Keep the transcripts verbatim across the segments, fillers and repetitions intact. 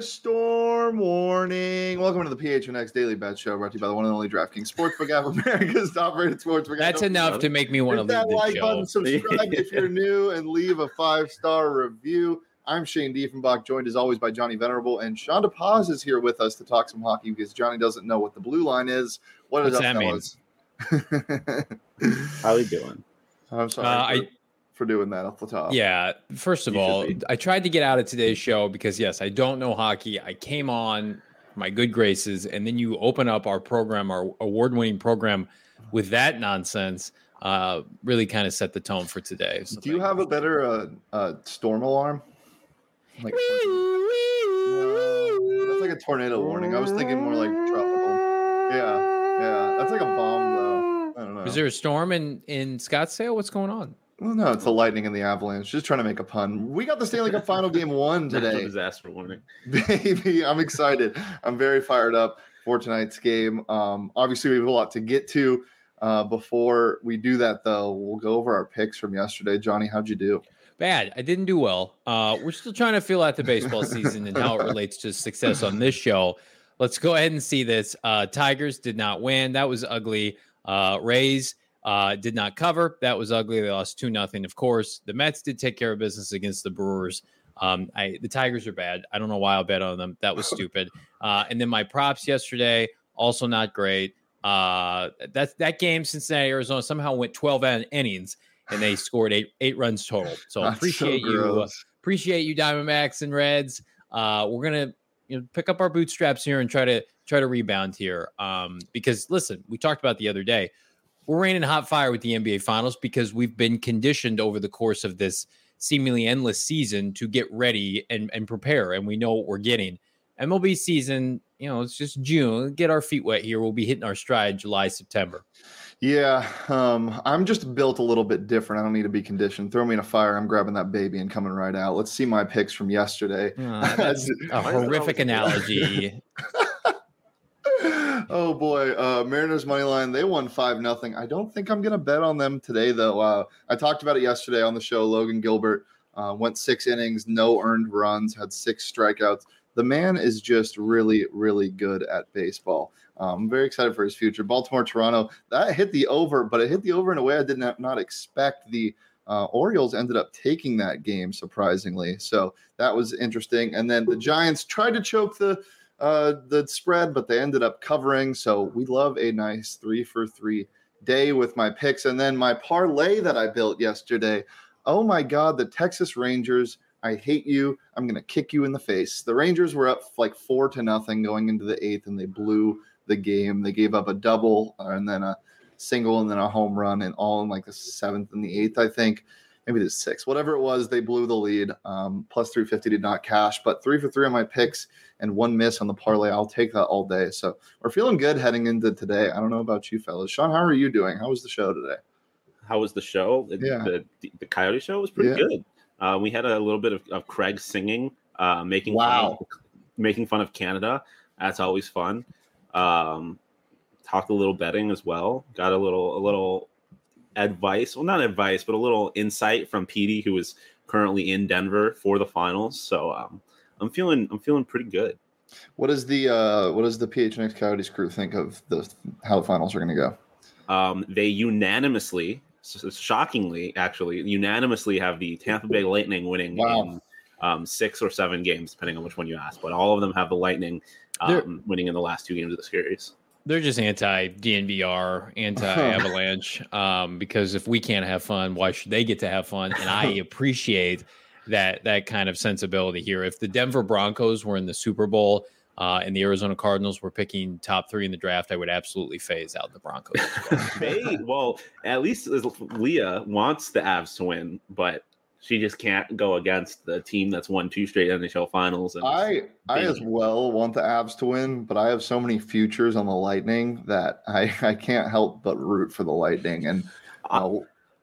Storm warning. Welcome to the P H N X Daily Bet Show, brought to you by the one and only DraftKings Sportsbook app, America's top-rated sportsbook. That's enough to make me want to leave that the like show. button, subscribe if you're new, and leave a five-star review. I'm Shane Diefenbach, joined as always by Johnny Venerable, and Shonda Paz is here with us to talk some hockey because Johnny doesn't know what the blue line is. What What's is that up, mean? fellas? How are you doing? I'm sorry Uh, for, I, for doing that off the top. yeah, first of You all, should be. I tried to get out of today's show because, yes, I don't know hockey. I came on my good graces, and then you open up our program, our award-winning program, with that nonsense. Uh, really kind of set the tone for today. So Do you thank have a better uh, uh, storm alarm? Like no, that's like a tornado warning. I was thinking more like tropical. Yeah, yeah. That's like a bomb, though. I don't know. Is there a storm in, in Scottsdale? What's going on? Well, no, it's the lightning and the avalanche. Just trying to make a pun. We got the Stanley Cup Final Game one Natural today. disaster warning. Baby, I'm excited. I'm very fired up for tonight's game. Um, obviously, we have a lot to get to. Uh, before we do that, though, we'll go over our picks from yesterday. Johnny, how'd you do? Bad. I didn't do well. Uh, we're still trying to feel out the baseball season and how it relates to success on this show. Let's go ahead and see this. Uh, Tigers did not win. That was ugly. Uh, Rays uh, did not cover. That was ugly. They lost two nothing. Of course, the Mets did take care of business against the Brewers. Um, I, the Tigers are bad. I don't know why I'll bet on them. That was stupid. Uh, and then my props yesterday, also not great. Uh, that, that game, Cincinnati, Arizona, somehow went twelve in- innings. And they scored eight eight runs total. So That's appreciate so you, uh, gross. appreciate you, Diamondbacks and Reds. Uh, we're gonna you know pick up our bootstraps here and try to try to rebound here. Um, because listen, we talked about the other day, we're raining hot fire with the N B A Finals because we've been conditioned over the course of this seemingly endless season to get ready and and prepare, and we know what we're getting. M L B season, you know, it's just June. Get our feet wet here. We'll be hitting our stride July, September. Yeah, um, I'm just built a little bit different. I don't need to be conditioned. Throw me in a fire. I'm grabbing that baby and coming right out. Let's see my picks from yesterday. Uh, that's a horrific analogy. Oh boy, uh, Mariners money line. They won five nothing. I don't think I'm gonna bet on them today though. Uh, I talked about it yesterday on the show. Logan Gilbert uh, went six innings, no earned runs, had six strikeouts. The man is just really, really good at baseball. Um, I'm very excited for his future. Baltimore, Toronto, that hit the over, but it hit the over in a way I did not, not expect. The uh, Orioles ended up taking that game, surprisingly. So that was interesting. And then the Giants tried to choke the uh, the spread, but they ended up covering. So we love a nice three for three day with my picks. And then my parlay that I built yesterday. Oh, my God, the Texas Rangers. I hate you. I'm going to kick you in the face. The Rangers were up like four to nothing going into the eighth, and they blew the game. They gave up a double and then a single and then a home run, and all in like the seventh and the eighth, I think. Maybe the sixth. Whatever it was, they blew the lead. Um, plus three fifty did not cash, but three for three on my picks and one miss on the parlay. I'll take that all day. So we're feeling good heading into today. I don't know about you fellas. Sean, how are you doing? How was the show today? How was the show? The, Yeah. the, the Coyote show was pretty Yeah. good. Uh, we had a little bit of, of Craig singing, uh, making Wow. fun of, making fun of Canada. That's always fun. Um, talked a little betting as well. Got a little a little advice. Well, not advice, but a little insight from Petey, who is currently in Denver for the finals. So um, I'm feeling I'm feeling pretty good. What is the uh, what does the P H N X Coyotes crew think of the how the finals are going to go? Um, they unanimously, shockingly, actually, unanimously have the Tampa Bay Lightning winning Wow. in um, six or seven games, depending on which one you ask. But all of them have the Lightning um, winning in the last two games of the series. They're just anti-D N V R, anti-Avalanche, um, because if we can't have fun, why should they get to have fun? And I appreciate that that kind of sensibility here. If the Denver Broncos were in the Super Bowl uh, and the Arizona Cardinals were picking top three in the draft, I would absolutely phase out the Broncos as well. They, well, at least Leah wants the Avs to win, but she just can't go against the team that's won two straight N H L finals. And I I as well want the Avs to win, but I have so many futures on the Lightning that I, I can't help but root for the Lightning. And uh,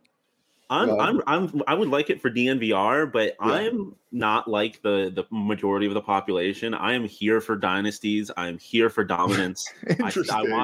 I'm, well, I'm, I'm, I would like it for D N V R, but Yeah. I'm not like the, the majority of the population. I am here for dynasties. I'm here for dominance. I, interesting. I want,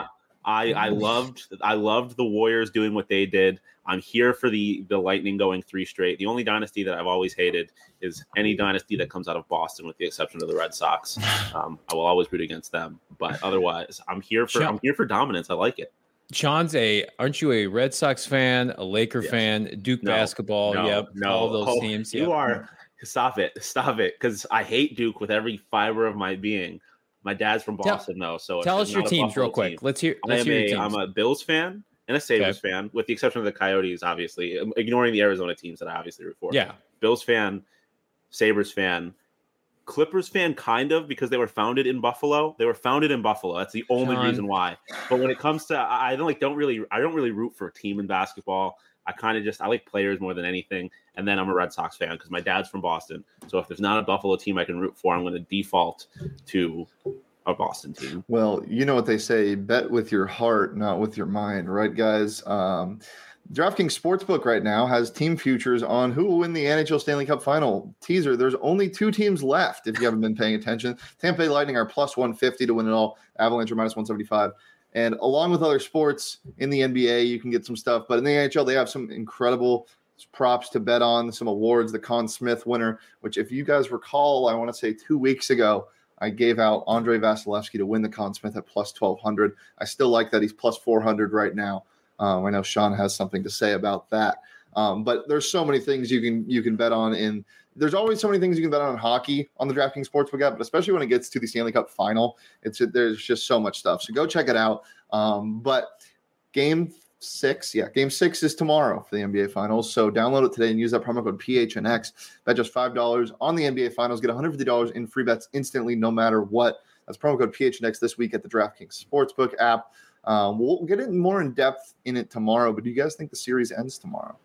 I I loved I loved the Warriors doing what they did. I'm here for the the Lightning going three straight. The only dynasty that I've always hated is any dynasty that comes out of Boston, with the exception of the Red Sox. Um, I will always root against them, but otherwise, I'm here for I'm here for dominance. I like it. Sean's a aren't you a Red Sox fan, a Laker yes. fan, Duke no, basketball? No, yep, no, all those oh, teams. You yep. are. Stop it, stop it, because I hate Duke with every fiber of my being. My dad's from Boston, tell, though, so tell us your teams real quick. Team. Let's hear. Let's I'm hear your a, teams. I'm a Bills fan and a Sabres okay. fan, with the exception of the Coyotes, obviously, ignoring the Arizona teams that I obviously root for. Yeah, Bills fan, Sabres fan, Clippers fan, kind of, because they were founded in Buffalo. They were founded in Buffalo. That's the only John. reason why. But when it comes to, I don't like, don't really, I don't really root for a team in basketball. I kind of just, I like players more than anything. And then I'm a Red Sox fan because my dad's from Boston. So if there's not a Buffalo team I can root for, I'm going to default to a Boston team. Well, you know what they say, bet with your heart, not with your mind, right, guys? Um, DraftKings Sportsbook right now has team futures on who will win the N H L Stanley Cup Final. Teaser, there's only two teams left if you haven't been paying attention. Tampa Bay Lightning are plus one fifty to win it all. Avalanche are minus one seventy-five. And along with other sports in the N B A, you can get some stuff. But in the N H L, they have some incredible props to bet on, some awards. The Conn Smith winner, which if you guys recall, I want to say two weeks ago, I gave out Andre Vasilevsky to win the Conn Smith at plus twelve hundred. I still like that. He's plus four hundred right now. Um, I know Sean has something to say about that. Um, but there's so many things you can you can bet on. In there's always so many things you can bet on in hockey on the DraftKings Sportsbook app, but especially when it gets to the Stanley Cup Final, it's there's just so much stuff. So go check it out. Um, but game six, yeah, game six is tomorrow for the N B A Finals. So download it today and use that promo code P H N X. Bet just five dollars on the N B A Finals. Get one hundred fifty dollars in free bets instantly, no matter what. That's promo code P H N X this week at the DraftKings Sportsbook app. Um, we'll get in more in depth in it tomorrow, but do you guys think the series ends tomorrow?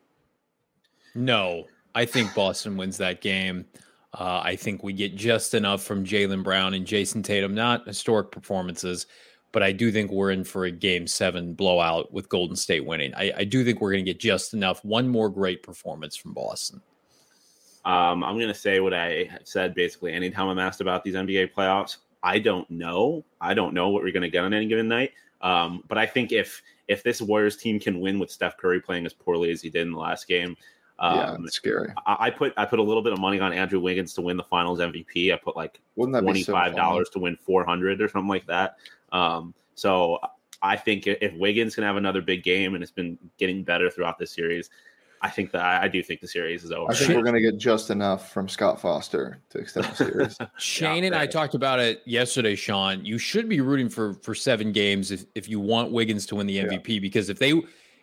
No, I think Boston wins that game. Uh, I think we get just enough from Jaylen Brown and Jason Tatum, not historic performances, but I do think we're in for a game seven blowout with Golden State winning. I, I do think we're going to get just enough. One more great performance from Boston. Um, I'm going to say what I said basically anytime I'm asked about these N B A playoffs. I don't know. I don't know what we're going to get on any given night. Um, but I think if if this Warriors team can win with Steph Curry playing as poorly as he did in the last game, um, yeah, it's scary. I, I put I put a little bit of money on Andrew Wiggins to win the Finals M V P. I put like twenty-five dollars so to win four hundred or something like that. Um, so I think if Wiggins can have another big game, and it's been getting better throughout this series, I think that I do think the series is over. I think we're going to get just enough from Scott Foster to extend the series. Shane yeah, and I talked about it yesterday, Sean. You should be rooting for for seven games if, if you want Wiggins to win the M V P, yeah. because if they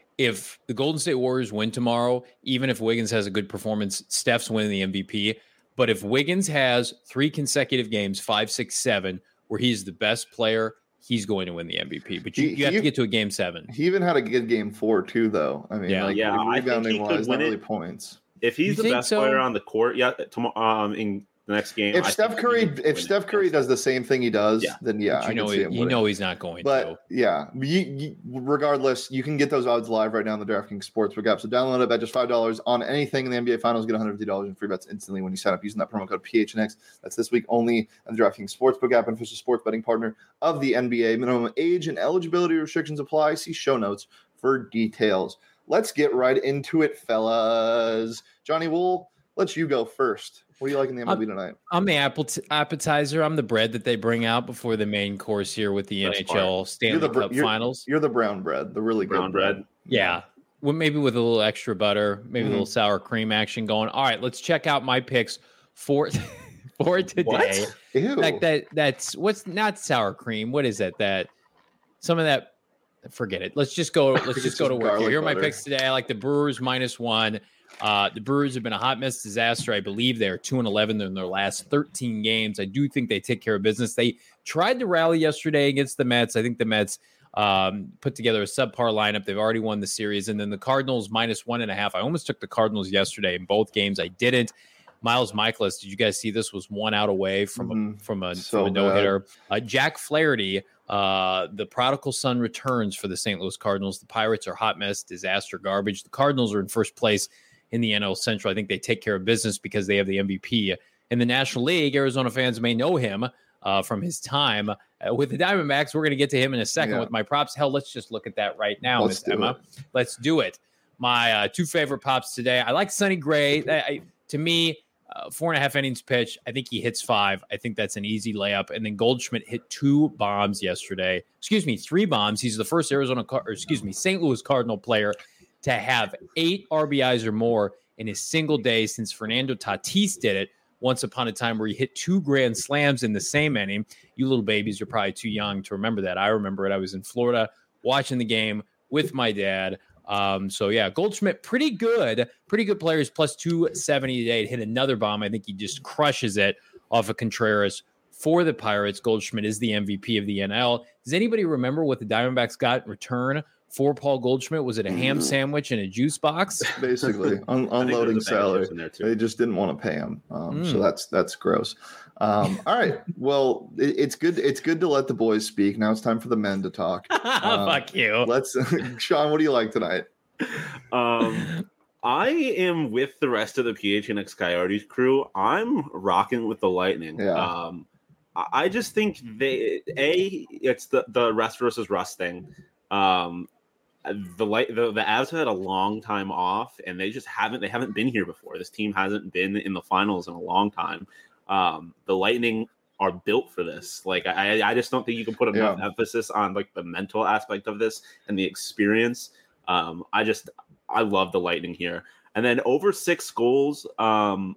if the Golden State Warriors win tomorrow, even if Wiggins has a good performance, Steph's winning the M V P. But if Wiggins has three consecutive games, five, six, seven, where he's the best player, he's going to win the M V P. But you, he, you have he, to get to a game seven. He even had a good game four, too, though. I mean, yeah, like, yeah, rebounding wise, not really points. If he's you the best so? player on the court, yeah, tomorrow um, in the next game. If I Steph Curry, if Steph Curry does the same thing he does, yeah. then yeah, you I know, can see him you winning. know he's not going but, to. yeah, you, you, regardless, you can get those odds live right now in the DraftKings Sportsbook app. So download it at just five dollars on anything in the N B A Finals. Get one hundred fifty dollars in free bets instantly when you sign up using that promo code P H N X. That's this week only on the DraftKings Sportsbook app, and official sports betting partner of the N B A. Minimum age and eligibility restrictions apply. See show notes for details. Let's get right into it, fellas. Johnny Wool, let's you go first. What do you like in the M L B tonight? I'm the apple t- appetizer. I'm the bread that they bring out before the main course here with the Best N H L part. Stanley you're the, Cup you're, Finals. You're the brown bread, the really brown good bread. bread. Yeah. Well, maybe with a little extra butter, maybe mm-hmm. a little sour cream action going. All right, let's check out my picks for for today. What? Ew. Like that that's what's not sour cream. What is that? That some of that forget it. Let's just go let's just go to work here. Here are my picks today. I like the Brewers minus one. Uh, the Brewers have been a hot mess disaster. I believe they're two and eleven in their last thirteen games. I do think they take care of business. They tried to rally yesterday against the Mets. I think the Mets um, put together a subpar lineup. They've already won the series. And then the Cardinals minus one and a half. I almost took the Cardinals yesterday in both games. I didn't. Miles Michaelis, did you guys see this? Was one out away from mm-hmm. a, from a, so from a no-hitter. Uh, Jack Flaherty, uh, the prodigal son returns for the Saint Louis Cardinals. The Pirates are hot mess, disaster, garbage. The Cardinals are in first place in the N L Central. I think they take care of business because they have the M V P in the National League. Arizona fans may know him uh, from his time uh, with the Diamondbacks. We're going to get to him in a second Yeah. with my props. Hell, let's just look at that right now, Let's Miss do Emma. it. Let's do it. My uh, two favorite pops today. I like Sonny Gray. That, I, to me, uh, four and a half innings pitch. I think he hits five. I think that's an easy layup. And then Goldschmidt hit two bombs yesterday. Excuse me, three bombs. He's the first Arizona, Car- or excuse me, Saint Louis Cardinal player to have eight R B Is or more in a single day since Fernando Tatis did it once upon a time, where he hit two grand slams in the same inning. You little babies are probably too young to remember that. I remember it. I was in Florida watching the game with my dad. Um, so yeah, Goldschmidt, pretty good, pretty good players, plus two seventy today. Hit another bomb. I think he just crushes it off of Contreras for the Pirates. Goldschmidt is the M V P of the N L. Does anybody remember what the Diamondbacks got in return for Paul Goldschmidt? Was it a ham sandwich and a juice box? Basically, un- I think unloading there's a bag of salary. chips in there, too. They just didn't want to pay him, um, so Mm. that's that's gross. Um, all right, well, it, it's good. It's good to let the boys speak. Now it's time for the men to talk. Um, Fuck you. Let's, Sean. What do you like tonight? Um, I am with the rest of the P H N X Coyotes crew. I'm rocking with the Lightning. Yeah. Um, I I just think they a it's the the rest versus rust thing. Um, the light the the Avs have had a long time off, and they just haven't they haven't been here before. This team hasn't been in the finals in a long time. Um, the Lightning are built for this. Like I I just don't think you can put enough Yeah. emphasis on like the mental aspect of this and the experience. Um, I just I love the Lightning here. And then over six goals, um,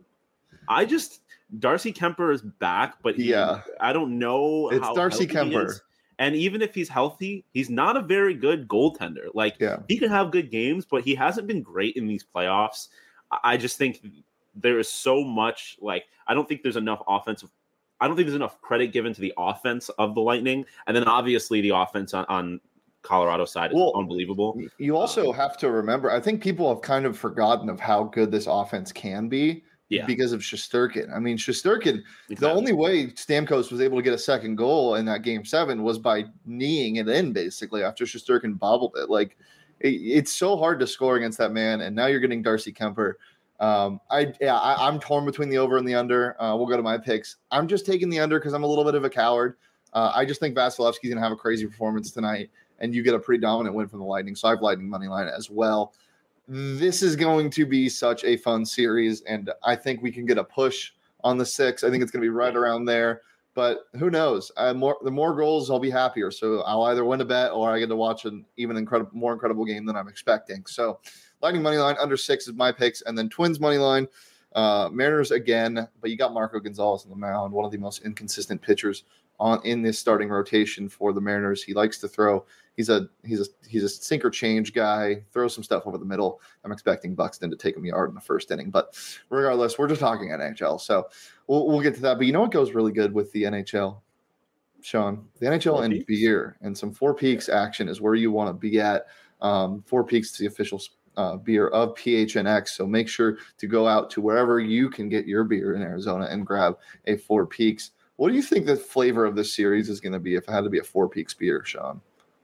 I just Darcy Kemper is back, but he, Yeah. I don't know. It's how Darcy healthy he Kemper. is. And even if he's healthy, he's not a very good goaltender. Like Yeah. he can have good games, but he hasn't been great in these playoffs. I I just think there is so much. Like I don't think there's enough offensive. I don't think there's enough credit given to the offense of the Lightning, and then obviously the offense on, on Colorado side is Well, unbelievable. You also have to remember, I think people have kind of forgotten of how good this offense can be Yeah. because of Shesterkin. I mean, Shesterkin, the Exactly. only way Stamkos was able to get a second goal in that game seven was by kneeing it in, basically, after Shesterkin bobbled it. Like, it, it's so hard to score against that man, and now you're getting Darcy Kemper. Um, I yeah, I, I'm torn between the over and the under. Uh, we'll go to my picks. I'm just taking the under because I'm a little bit of a coward. Uh, I just think Vasilevsky's gonna have a crazy performance tonight, and you get a pretty dominant win from the Lightning. So I've Lightning money line as well. This is going to be such a fun series, and I think we can get a push on the six. I think it's going to be right around there, but who knows? I, more the more goals, I'll be happier. So I'll either win a bet or I get to watch an even incredible, more incredible game than I'm expecting. So Lightning money line under six is my picks, and then Twins money line. Uh, Mariners again, but you got Marco Gonzalez on the mound, one of the most inconsistent pitchers on in this starting rotation for the Mariners. He likes to throw. He's a he's a he's a sinker change guy. Throw some stuff over the middle. I'm expecting Buxton to take him a yard in the first inning, but regardless, we're just talking N H L, so we'll we'll get to that. But you know what goes really good with the N H L, Sean? The N H L Four and Peaks? beer and some Four Peaks action is where you want to be at. Um, Four Peaks is the official uh, beer of P H N X, so make sure to go out to wherever you can get your beer in Arizona and grab a Four Peaks. What do you think the flavor of this series is going to be if it had to be a Four Peaks beer, Sean?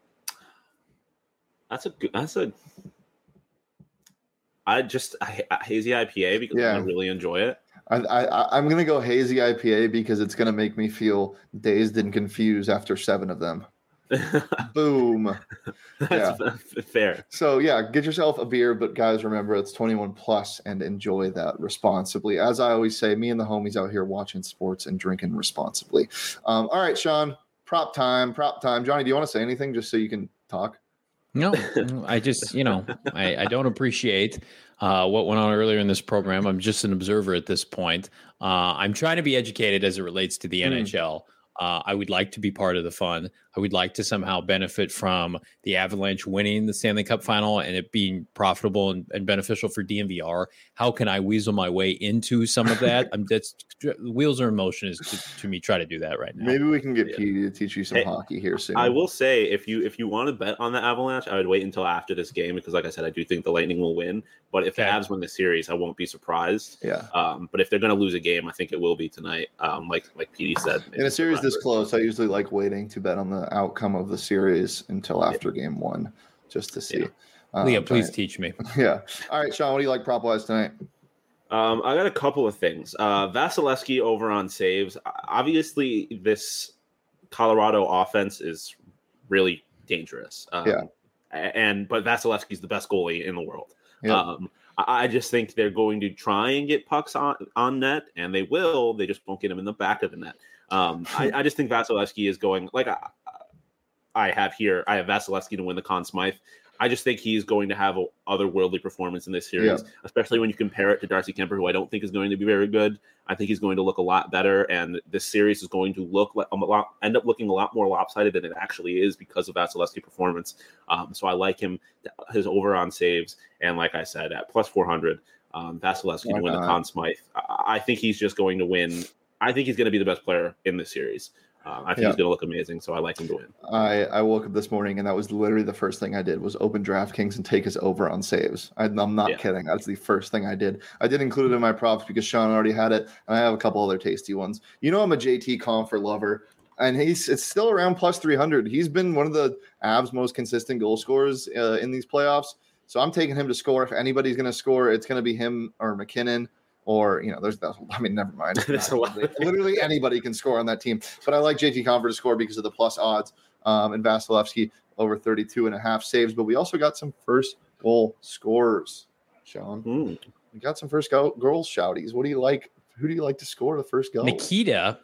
That's a good. That's a. I just I, I- hazy I P A because Yeah. I really enjoy it. I, I, I'm going to go hazy I P A because it's going to make me feel dazed and confused after seven of them. Boom. That's fair. So, yeah, get yourself a beer, but guys, remember it's twenty-one plus and enjoy that responsibly. As I always say, me and the homies out here watching sports and drinking responsibly. Um, all right, Sean, prop time, prop time. Johnny, do you want to say anything just so you can talk? No, I just, you know, I, I don't appreciate uh, what went on earlier in this program. I'm just an observer at this point. Uh, I'm trying to be educated as it relates to the Mm. N H L. Uh, I would like to be part of the fun. I would like to somehow benefit from the Avalanche winning the Stanley Cup final and it being profitable and, and beneficial for D N V R. How can I weasel my way into some of that? I'm that's wheels are in motion is to, to me try to do that right now. Maybe we can get Yeah. Petey to teach you some Hey, hockey here soon. I will say if you if you want to bet on the Avalanche, I would wait until after this game because, like I said, I do think the Lightning will win. But if the Okay. Avs win the series, I won't be surprised. Yeah. Um, but if they're going to lose a game, I think it will be tonight. Um, like like Petey said, maybe In a series this survivor. close, I usually like waiting to bet on the outcome of the series until after game one, just to see. Yeah. Um, Leah, please trying- teach me. Yeah. All right, Sean, what do you like prop wise tonight? Um, I got a couple of things. Uh, Vasilevsky over on saves. Obviously, this Colorado offense is really dangerous. Um, Yeah. And but Vasilevsky's the best goalie in the world. Yep. Um, I, I just think they're going to try and get pucks on, on net, and they will. They just won't get them in the back of the net. Um, I, I just think Vasilevsky is going like I, I have here. I have Vasilevsky to win the Conn Smythe. I just think he's going to have a otherworldly performance in this series, Yeah. especially when you compare it to Darcy Kemper, who I don't think is going to be very good. I think he's going to look a lot better, and this series is going to look like a lot, end up looking a lot more lopsided than it actually is because of Vasilevsky's performance. Um, so I like him, his over on saves, and like I said, at plus four hundred, um, Vasilevsky Why to win not? the Conn Smythe. I, I think he's just going to win. I think he's going to be the best player in this series. Uh, I think Yeah. he's going to look amazing, so I like him to win. I, I woke up this morning and that was literally the first thing I did was open DraftKings and take his over on saves. I, I'm not Yeah. kidding. That's the first thing I did. I did include it in my props because Sean already had it, and I have a couple other tasty ones. You know I'm a J T Confer lover, and he's it's still around plus three hundred. He's been one of the Avs' most consistent goal scorers uh, in these playoffs, so I'm taking him to score. If anybody's going to score, it's going to be him or McKinnon. Or, you know, there's, I mean, never mind. There's a lot. Literally anybody can score on that team. But I like J T Confer to score because of the plus odds. Um, and Vasilevsky over thirty-two and a half saves. But we also got some first goal scorers, Sean. Mm. We got some first goal, goal shouties. What do you like? Who do you like to score the first goal? Nikita.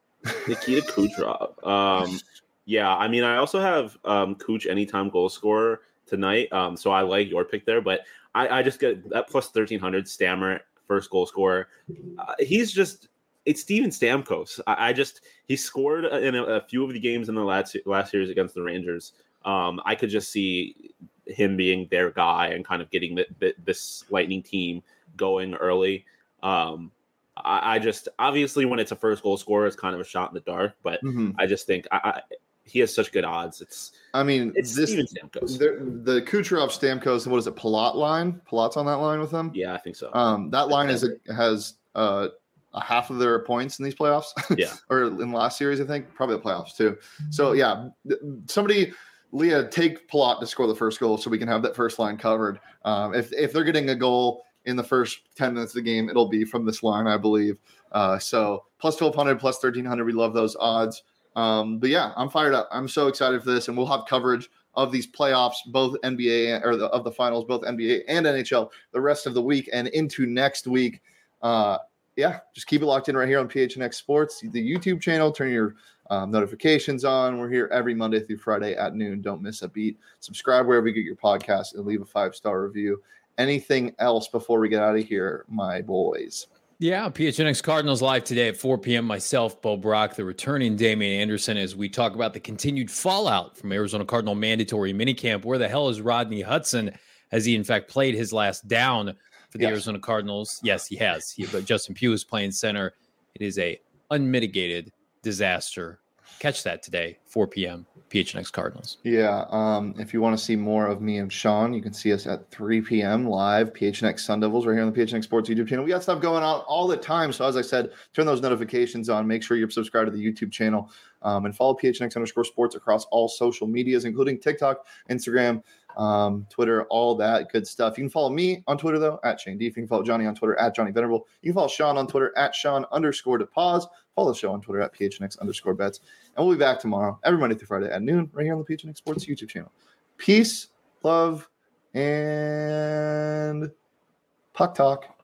Nikita Kucherov. Um, yeah, I mean, I also have um, Kuch anytime goal scorer tonight. Um, so I like your pick there. But I, I just get that plus thirteen hundred Stammer. First goal scorer. Uh, he's just, it's Steven Stamkos. I, I just, he scored in a, a few of the games in the last, last series against the Rangers. Um, I could just see him being their guy and kind of getting the, the, this Lightning team going early. Um, I, I just, obviously when it's a first goal scorer, it's kind of a shot in the dark, but Mm-hmm. I just think I, I, he has such good odds. It's, I mean, it's this Steven Stamkos. the, the Kucherov Stamkos, what is it, Palat line? Palat's on that line with them? Yeah, I think so. Um, that line is a, has uh, a half of their points in these playoffs. Yeah. Or in last series, I think, probably the playoffs too. So yeah, th- somebody, Leah, take Palat to score the first goal so we can have that first line covered. Um, if if they're getting a goal in the first ten minutes of the game, it'll be from this line, I believe. Uh, so plus twelve hundred, plus thirteen hundred, we love those odds. Um, but yeah, I'm fired up. I'm so excited for this, and we'll have coverage of these playoffs, both N B A or the, of the finals, both N B A and N H L, the rest of the week and into next week. Uh, yeah, just keep it locked in right here on P H N X Sports, the YouTube channel. Turn your um, notifications on. We're here every Monday through Friday at noon. Don't miss a beat. Subscribe wherever you get your podcast and leave a five-star review. Anything else before we get out of here, my boys? Yeah, P H N X Cardinals live today at four p.m. Myself, Bo Brock, the returning Damian Anderson, as we talk about the continued fallout from Arizona Cardinal mandatory minicamp. Where the hell is Rodney Hudson? Has he, in fact, played his last down for the Yes. Arizona Cardinals? Yes, he has. He, but Justin Pugh is playing center. It is a unmitigated disaster. Catch that today, four p.m. P H N X Cardinals. Yeah, um, if you want to see more of me and Sean, you can see us at three p.m. live, P H N X Sun Devils, right here on the P H N X Sports YouTube channel. We got stuff going on all the time. So as I said, turn those notifications on. Make sure you're subscribed to the YouTube channel um, and follow P H N X underscore sports across all social medias, including TikTok, Instagram, um, Twitter, all that good stuff. You can follow me on Twitter, though, at Shane Deef. You can follow Johnny on Twitter, at Johnny Venerable. You can follow Sean on Twitter, at Sean underscore to pause. Follow the show on Twitter, at P H N X underscore bets. And we'll be back tomorrow, every Monday through Friday at noon, right here on the P H N X Sports YouTube channel. Peace, love, and puck talk.